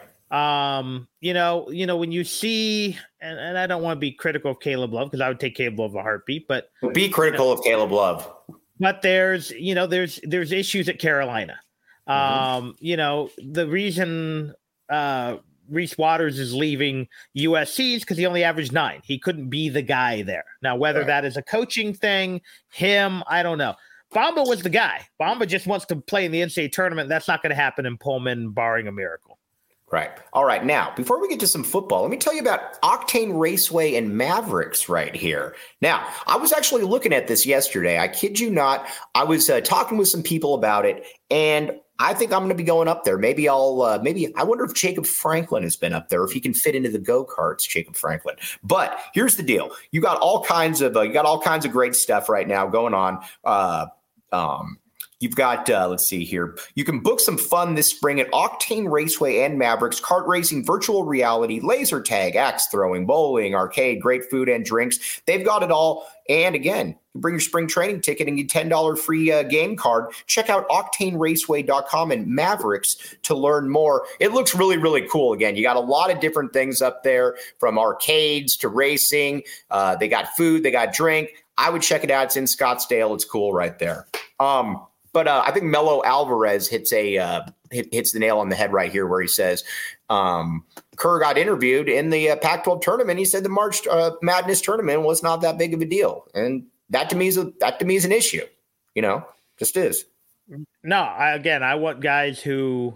Speaker 2: Um, you know, you know, when you see, and, and I don't want to be critical of Caleb Love because I would take Caleb Love a heartbeat, but
Speaker 1: be critical you know, of Caleb Love.
Speaker 2: But there's, you know, there's there's issues at Carolina. Mm-hmm. Um, you know, the reason uh Reese Waters is leaving U S C is because he only averaged nine. He couldn't be the guy there. Now, whether right. that is a coaching thing, him, I don't know. Bamba was the guy. Bamba just wants to play in the N C double A tournament. That's not going to happen in Pullman, barring a miracle.
Speaker 1: Right. All right. Now, before we get to some football, let me tell you about Octane Raceway and Mavericks right here. Now, I was actually looking at this yesterday. I kid you not. I was uh, talking with some people about it, and I think I'm going to be going up there. Maybe I'll, uh, maybe, I wonder if Jacob Franklin has been up there, if he can fit into the go-karts, Jacob Franklin. But here's the deal. You got all kinds of, uh, you got all kinds of great stuff right now going on. Uh, Um, you've got, uh, let's see here. You can book some fun this spring at Octane Raceway and Mavericks, kart racing, virtual reality, laser tag, axe throwing, bowling, arcade, great food and drinks. They've got it all. And again, you bring your spring training ticket and get ten dollars free uh, game card. Check out octane raceway dot com and Mavericks to learn more. It looks really, really cool. Again, you got a lot of different things up there, from arcades to racing. Uh, they got food, they got drink. I would check it out. It's in Scottsdale. It's cool right there. Um, but uh, I think Melo Alvarez hits a uh, hit, hits the nail on the head right here, where he says um, Kerr got interviewed in the uh, Pac twelve tournament. He said the March uh, Madness tournament was not that big of a deal, and that to me is a, that to me is an issue. You know, just is.
Speaker 2: No, I, again, I want guys who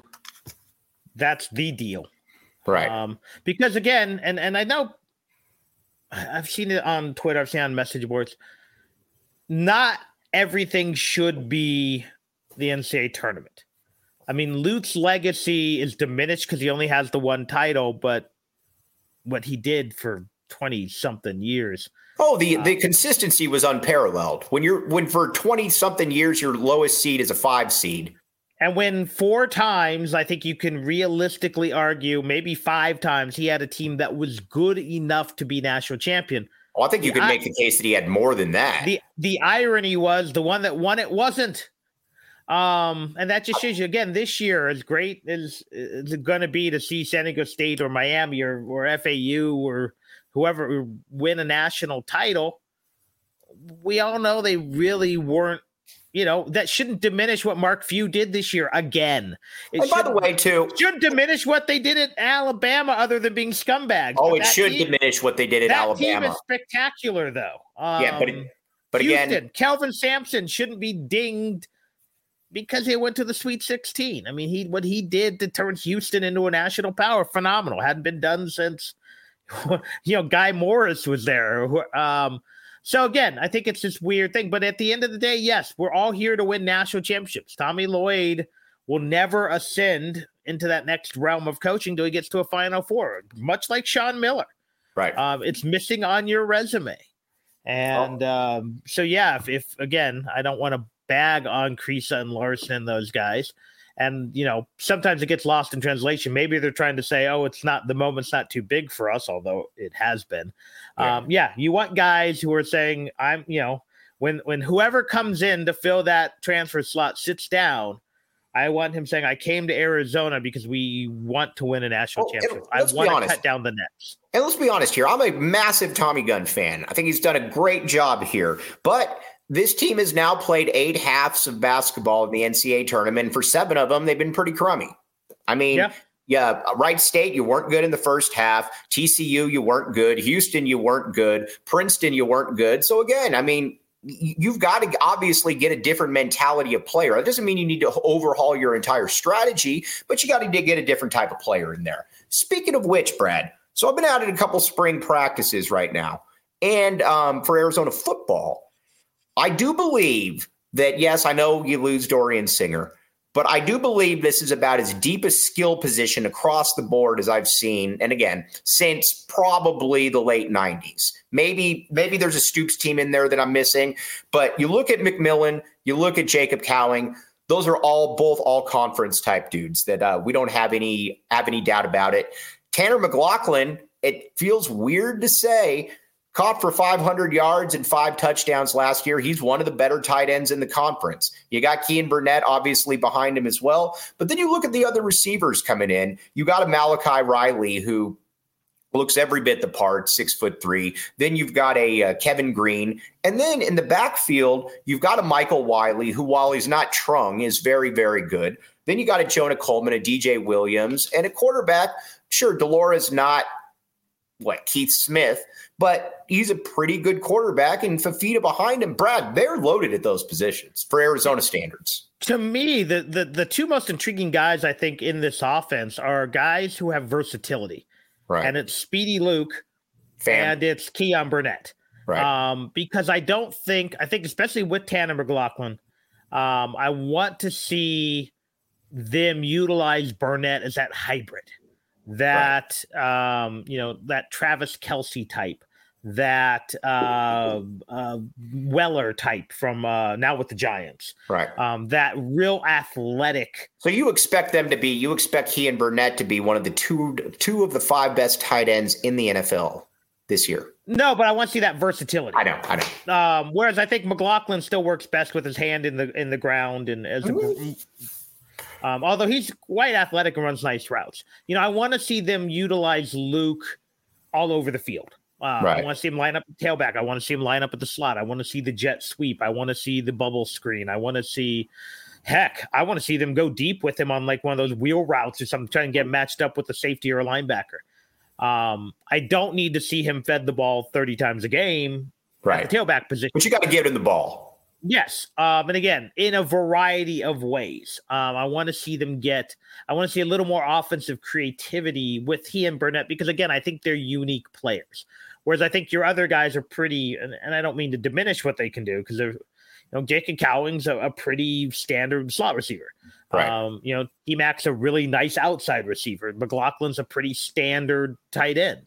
Speaker 2: that's the deal,
Speaker 1: right?
Speaker 2: Um, because again, and and I know. I've seen it on Twitter. I've seen it on message boards. Not everything should be the N C double A tournament. I mean, Luke's legacy is diminished because he only has the one title, but what he did for twenty-something years.
Speaker 1: Oh, the, the um, consistency was unparalleled. When you're when for twenty-something years, your lowest seed is a five seed.
Speaker 2: And when four times, I think you can realistically argue, maybe five times, he had a team that was good enough to be national champion.
Speaker 1: Well, I think you the, could make the case that he had more than that.
Speaker 2: The the irony was the one that won it wasn't. Um, and that just shows you, again, this year, as great as it's going to be to see San Diego State or Miami or, or F A U or whoever win a national title, we all know they really weren't You know, that shouldn't diminish what Mark Few did this year again. It
Speaker 1: and by the way, too,
Speaker 2: should diminish what they did at Alabama other than being scumbags.
Speaker 1: Oh,
Speaker 2: but
Speaker 1: it should
Speaker 2: team,
Speaker 1: diminish what they did at
Speaker 2: that
Speaker 1: Alabama.
Speaker 2: That team is spectacular, though. Um,
Speaker 1: yeah, but, it, but
Speaker 2: Houston,
Speaker 1: again.
Speaker 2: Kelvin Sampson shouldn't be dinged because he went to the Sweet sixteen. I mean, he what he did to turn Houston into a national power, phenomenal. Hadn't been done since, you know, Guy Morris was there. Um So, again, I think it's this weird thing. But at the end of the day, yes, we're all here to win national championships. Tommy Lloyd will never ascend into that next realm of coaching until he gets to a Final Four, much like Sean Miller.
Speaker 1: Right.
Speaker 2: Um, it's missing on your resume. And oh. um, so, yeah, if, if, again, I don't want to bag on Kriisa and Larson and those guys. And, you know, sometimes it gets lost in translation. Maybe they're trying to say, oh, it's not, the moment's not too big for us, although it has been. Yeah. Um, yeah, you want guys who are saying, I'm, you know, when, when whoever comes in to fill that transfer slot sits down, I want him saying, I came to Arizona because we want to win a national oh, championship. I want to cut down the nets.
Speaker 1: And let's be honest here. I'm a massive Tommy Gunn fan. I think he's done a great job here. But this team has now played eight halves of basketball in the N C A A tournament. For seven of them, they've been pretty crummy. I mean, yeah. yeah, Wright State, you weren't good in the first half. T C U, you weren't good. Houston, you weren't good. Princeton, you weren't good. So again, I mean, you've got to obviously get a different mentality of player. That doesn't mean you need to overhaul your entire strategy, but you got to get a different type of player in there. Speaking of which, Brad, so I've been out at a couple spring practices right now. And um, for Arizona football, I do believe that, yes, I know you lose Dorian Singer, but I do believe this is about as deep a skill position across the board as I've seen. And again, since probably the late nineties. Maybe, maybe there's a Stoops team in there that I'm missing, but you look at McMillan, you look at Jacob Cowing, those are all both all conference type dudes that uh, we don't have any, have any doubt about it. Tanner McLaughlin, it feels weird to say, caught for five hundred yards and five touchdowns last year. He's one of the better tight ends in the conference. You got Kean Burnett obviously behind him as well. But then you look at the other receivers coming in. You got a Malachi Riley who looks every bit the part, six foot three. Then you've got a uh, Kevin Green. And then in the backfield, you've got a Michael Wiley who, while he's not Trung, is very, very good. Then you got a Jonah Coleman, a D J Williams, and a quarterback. Sure, Delores not what Keith Smith, but he's a pretty good quarterback, and Fafita behind him. Brad, they're loaded at those positions for Arizona standards.
Speaker 2: To me, the, the the two most intriguing guys I think in this offense are guys who have versatility,
Speaker 1: right?
Speaker 2: And it's Speedy Luke
Speaker 1: Fam.
Speaker 2: and it's Keon Burnett,
Speaker 1: right?
Speaker 2: Um, because I don't think I think especially with Tanner McLaughlin, um, I want to see them utilize Burnett as that hybrid. That, right. um, you know, that Travis Kelce type, that uh, uh, Weller type from uh, now with the Giants.
Speaker 1: Right.
Speaker 2: Um, that real athletic.
Speaker 1: So you expect them to be, you expect he and Burnett to be one of the two, two of the five best tight ends in the N F L this year.
Speaker 2: No, but I want to see that versatility.
Speaker 1: I know, I know.
Speaker 2: Um, whereas I think McLaughlin still works best with his hand in the in the ground and as mm-hmm. a Um, although he's quite athletic and runs nice routes. You know, I want to see them utilize Luke all over the field. Uh,
Speaker 1: right.
Speaker 2: I want to see him line up at the tailback. I want to see him line up at the slot. I want to see the jet sweep. I want to see the bubble screen. I want to see, heck, I want to see them go deep with him on like one of those wheel routes or something, trying to get matched up with a safety or a linebacker. Um, I don't need to see him fed the ball thirty times a game
Speaker 1: right.
Speaker 2: at the tailback position.
Speaker 1: But you got to give him the ball.
Speaker 2: Yes. Um, and again, in a variety of ways. Um, I want to see them get, I want to see a little more offensive creativity with he and Burnett, because again, I think they're unique players. Whereas I think your other guys are pretty, and, and I don't mean to diminish what they can do, because they're, you know, Jacob Cowing's a, a pretty standard slot receiver.
Speaker 1: Right.
Speaker 2: Um, you know, T-Mac's a really nice outside receiver. McLaughlin's a pretty standard tight end.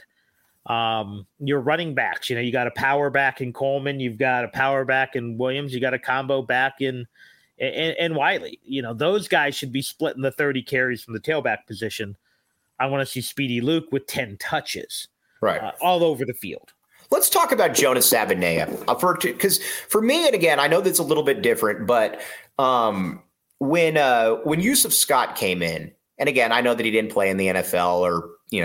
Speaker 2: Um, your running backs, you know, you got a power back in Coleman, you've got a power back in Williams, you got a combo back in, in, in Wiley. You know, those guys should be splitting the thirty carries from the tailback position. I want to see Speedy Luke with ten touches,
Speaker 1: right,
Speaker 2: uh, all over the field.
Speaker 1: Let's talk about Jonas Savaiinaea uh, for because for me, and again, I know that's a little bit different, but um, when uh, when Yusuf Scott came in, and again, I know that he didn't play in the N F L or you know.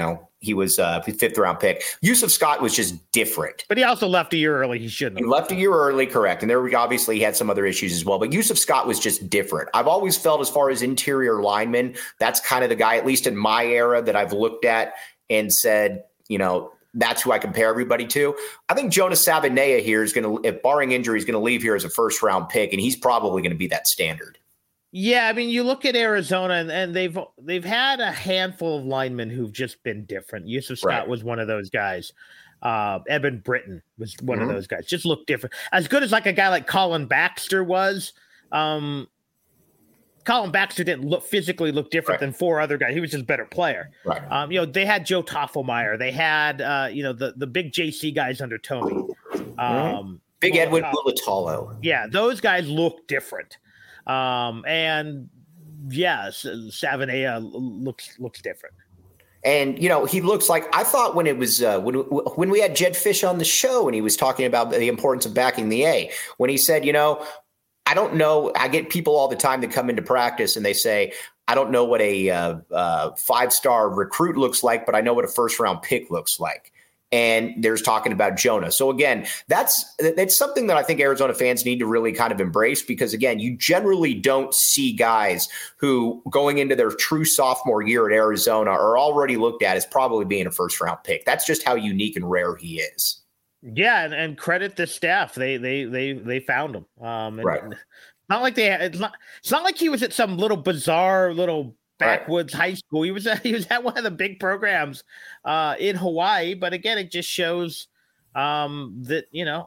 Speaker 1: he was uh, a fifth round pick. Yusuf Scott was just different.
Speaker 2: But he also left a year early. He shouldn't have.
Speaker 1: He left a year early, correct. And there we obviously had some other issues as well. But Yusuf Scott was just different. I've always felt as far as interior linemen, that's kind of the guy, at least in my era, that I've looked at and said, you know, that's who I compare everybody to. I think Jonas Savaiinaea here is going to, if barring injury, is going to leave here as a first round pick, and he's probably going to be that standard.
Speaker 2: Yeah, I mean, you look at Arizona, and, and they've they've had a handful of linemen who've just been different. Yusuf Scott right. was one of those guys. Uh, Eben Britton was one mm-hmm. of those guys. Just looked different. As good as like a guy like Colin Baxter was, um, Colin Baxter didn't look physically look different right. than four other guys. He was just a better player.
Speaker 1: Right.
Speaker 2: Um, you know, they had Joe Toffelmeyer. They had uh, you know the the big J C guys under Tony. Um,
Speaker 1: mm-hmm. Big Edwin Mulatalo.
Speaker 2: Yeah, those guys look different. Um, and yes, Savaiinaea looks looks different.
Speaker 1: And, you know, he looks like, I thought when it was, uh, when, when we had Jed Fish on the show and he was talking about the importance of backing the A, when he said, you know, I don't know, I get people all the time that come into practice and they say, I don't know what a uh, uh, five-star recruit looks like, but I know what a first-round pick looks like. And there's talking about Jonah. So again, that's that's something that I think Arizona fans need to really kind of embrace, because again, you generally don't see guys who going into their true sophomore year at Arizona are already looked at as probably being a first round pick. That's just how unique and rare he is.
Speaker 2: Yeah, and, and credit the staff. They they they they found him. Um, and,
Speaker 1: right.
Speaker 2: And not like they. It's not. It's not like he was at some little bizarre little backwoods right. high school. He was at, he was at one of the big programs uh, in Hawaii. But again, it just shows um, that, you know,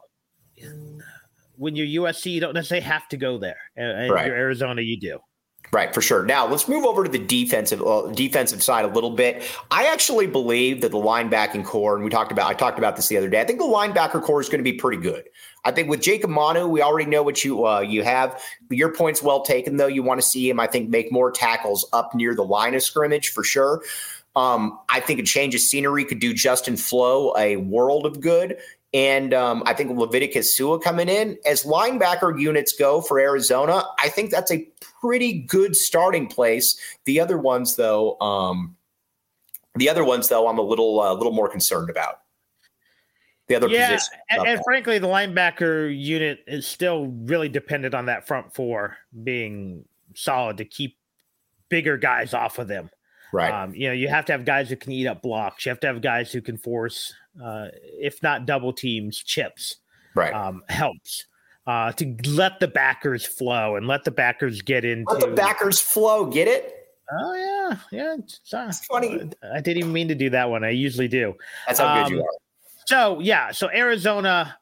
Speaker 2: when you're U S C, you don't necessarily have to go there. And right. you're Arizona, you do.
Speaker 1: Right, for sure. Now let's move over to the defensive uh, defensive side a little bit. I actually believe that the linebacking core, and we talked about, I talked about this the other day. I think the linebacker core is going to be pretty good. I think with Jacob Manu, we already know what you uh, you have. Your point's well taken, though. You want to see him, I think, make more tackles up near the line of scrimmage for sure. Um, I think a change of scenery could do Justin Flo a world of good. And um, I think Leviticus Sua coming in. As linebacker units go for Arizona, I think that's a pretty good starting place. The other ones, though, um, the other ones, though, I'm a little, a uh, little more concerned about. The other
Speaker 2: yeah,
Speaker 1: position.
Speaker 2: And, and frankly, the linebacker unit is still really dependent on that front four being solid to keep bigger guys off of them.
Speaker 1: Right.
Speaker 2: Um, you know, you have to have guys who can eat up blocks. You have to have guys who can force, uh, if not double teams, chips.
Speaker 1: Right.
Speaker 2: Um, helps uh, to let the backers flow and let the backers get into.
Speaker 1: Let the backers flow. Get it?
Speaker 2: Oh yeah, yeah. It's, uh,
Speaker 1: it's funny.
Speaker 2: I didn't even mean to do that one. I usually do.
Speaker 1: That's how
Speaker 2: um,
Speaker 1: good you are.
Speaker 2: So yeah, so Arizona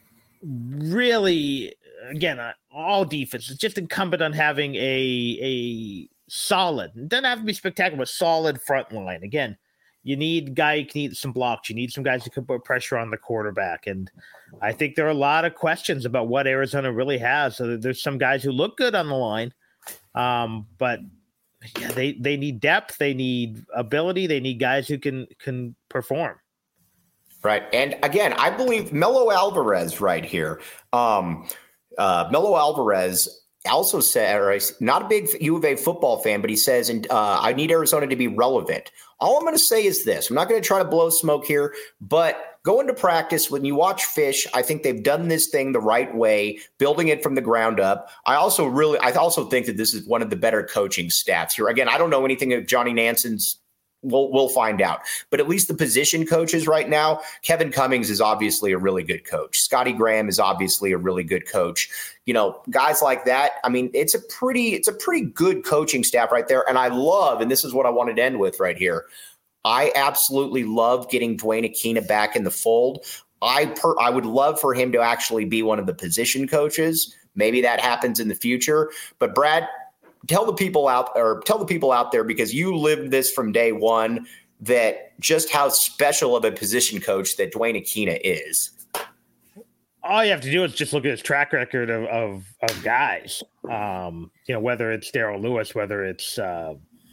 Speaker 2: really, again, uh, all defense is just incumbent on having a a solid. It doesn't have to be spectacular, but solid front line. Again, you need guy who can eat some blocks. You need some guys who can put pressure on the quarterback. And I think there are a lot of questions about what Arizona really has. So there's some guys who look good on the line, um, but yeah, they they need depth. They need ability. They need guys who can can perform.
Speaker 1: Right. And again, I believe Melo Alvarez right here. Um, uh, Melo Alvarez also said, or not a big U of A football fan, but he says, and uh, I need Arizona to be relevant. All I'm going to say is this. I'm not going to try to blow smoke here, but go into practice. When you watch Fish, I think they've done this thing the right way, building it from the ground up. I also really, I also think that this is one of the better coaching staffs here. Again, I don't know anything of Johnny Nanson's. We'll we'll find out. But at least the position coaches right now, Kevin Cummings is obviously a really good coach. Scotty Graham is obviously a really good coach. You know, guys like that. I mean, it's a pretty it's a pretty good coaching staff right there. And I love, and this is what I wanted to end with right here. I absolutely love getting Dwayne Aquina back in the fold. I per, I would love for him to actually be one of the position coaches. Maybe that happens in the future. But Brad, Tell the people out or tell the people out there, because you lived this from day one, that just how special of a position coach that Dwayne Aquina is.
Speaker 2: All you have to do is just look at his track record of of, of guys. Um, you know, whether it's Darryl Lewis, whether it's uh,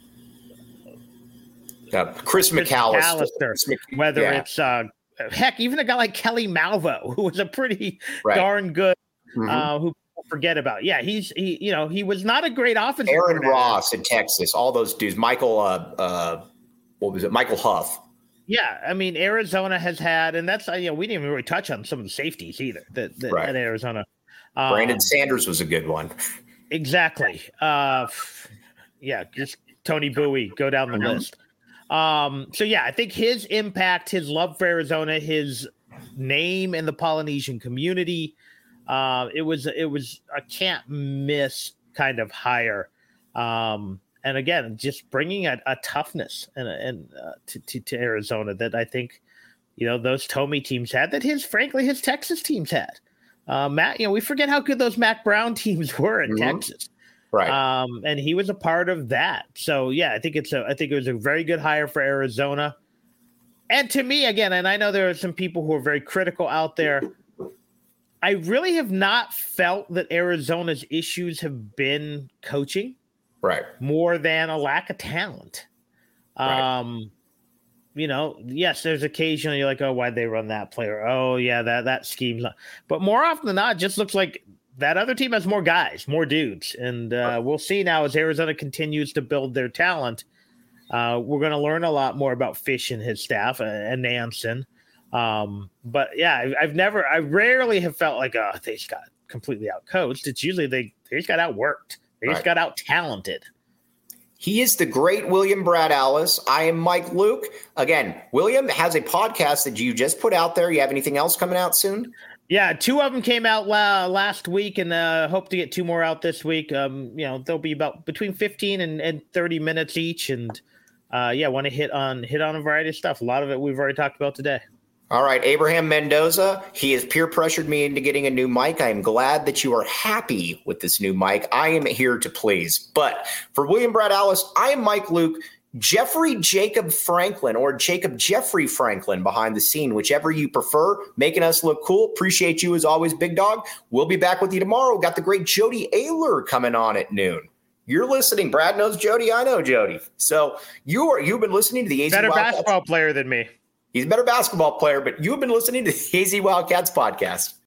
Speaker 1: uh, Chris, Chris McAllister,
Speaker 2: McAllister whether yeah. it's uh, heck, even a guy like Kelly Malvo, who was a pretty right. darn good, mm-hmm. uh, who. Forget about. Yeah, he's he. You know, he was not a great offensive.
Speaker 1: Aaron Ross in Texas, all those dudes. Michael, uh, uh, what was it? Michael Huff.
Speaker 2: Yeah, I mean, Arizona has had, and that's, you know, we didn't even really touch on some of the safeties either that, that
Speaker 1: Right.
Speaker 2: at Arizona. Um,
Speaker 1: Brandon Sanders was a good one.
Speaker 2: Exactly. Uh, yeah, just Tony Bowie, go down the
Speaker 1: Mhm.
Speaker 2: list. Um, so, yeah, I think his impact, his love for Arizona, his name in the Polynesian community, uh, it was it was a can't miss kind of hire. Um, and again, just bringing a, a toughness and, and uh, to, to, to Arizona that I think, you know, those Tomey teams had, that his, frankly, his Texas teams had. Uh, Matt, you know, we forget how good those Mac Brown teams were in
Speaker 1: Mhm.
Speaker 2: Texas.
Speaker 1: Right.
Speaker 2: Um, and he was a part of that. So, yeah, I think it's a, I think it was a very good hire for Arizona. And to me, again, and I know there are some people who are very critical out there, I really have not felt that Arizona's issues have been coaching
Speaker 1: Right.
Speaker 2: more than a lack of talent.
Speaker 1: Right.
Speaker 2: Um, you know, yes, there's occasionally you're like, oh, why'd they run that player? Oh, yeah, that that scheme's not. But more often than not, it just looks like that other team has more guys, more dudes. And uh, we'll see now as Arizona continues to build their talent. Uh, we're going to learn a lot more about Fish and his staff uh, and Nansen. Um, but yeah, I've, I've never, I rarely have felt like, oh, they just got completely out coached. It's usually they, they just got outworked. They just
Speaker 1: Right.
Speaker 2: got out talented.
Speaker 1: He is the great William Brad Allis. I am Mike Luke. Again, William has a podcast that you just put out there. You have anything else coming out soon?
Speaker 2: Yeah, two of them came out la- last week, and uh, hope to get two more out this week. Um, you know, they'll be about between fifteen and, and thirty minutes each, and uh, yeah, want to hit on hit on a variety of stuff. A lot of it we've already talked about today.
Speaker 1: All right, Abraham Mendoza, he has peer pressured me into getting a new mic. I am glad that you are happy with this new mic. I am here to please. But for William Brad Allis, I am Mike Luke. Jeffrey Jacob Franklin or Jacob Jeffrey Franklin behind the scene, whichever you prefer, making us look cool. Appreciate you as always, big dog. We'll be back with you tomorrow. Got the great Jody Ayler coming on at noon. You're listening. Brad knows Jody. I know Jody. So you are, you've been listening to the A Z
Speaker 2: Better
Speaker 1: Wildcats.
Speaker 2: basketball player than me.
Speaker 1: He's a better basketball player, but you've been listening to the A Z Wildcats podcast.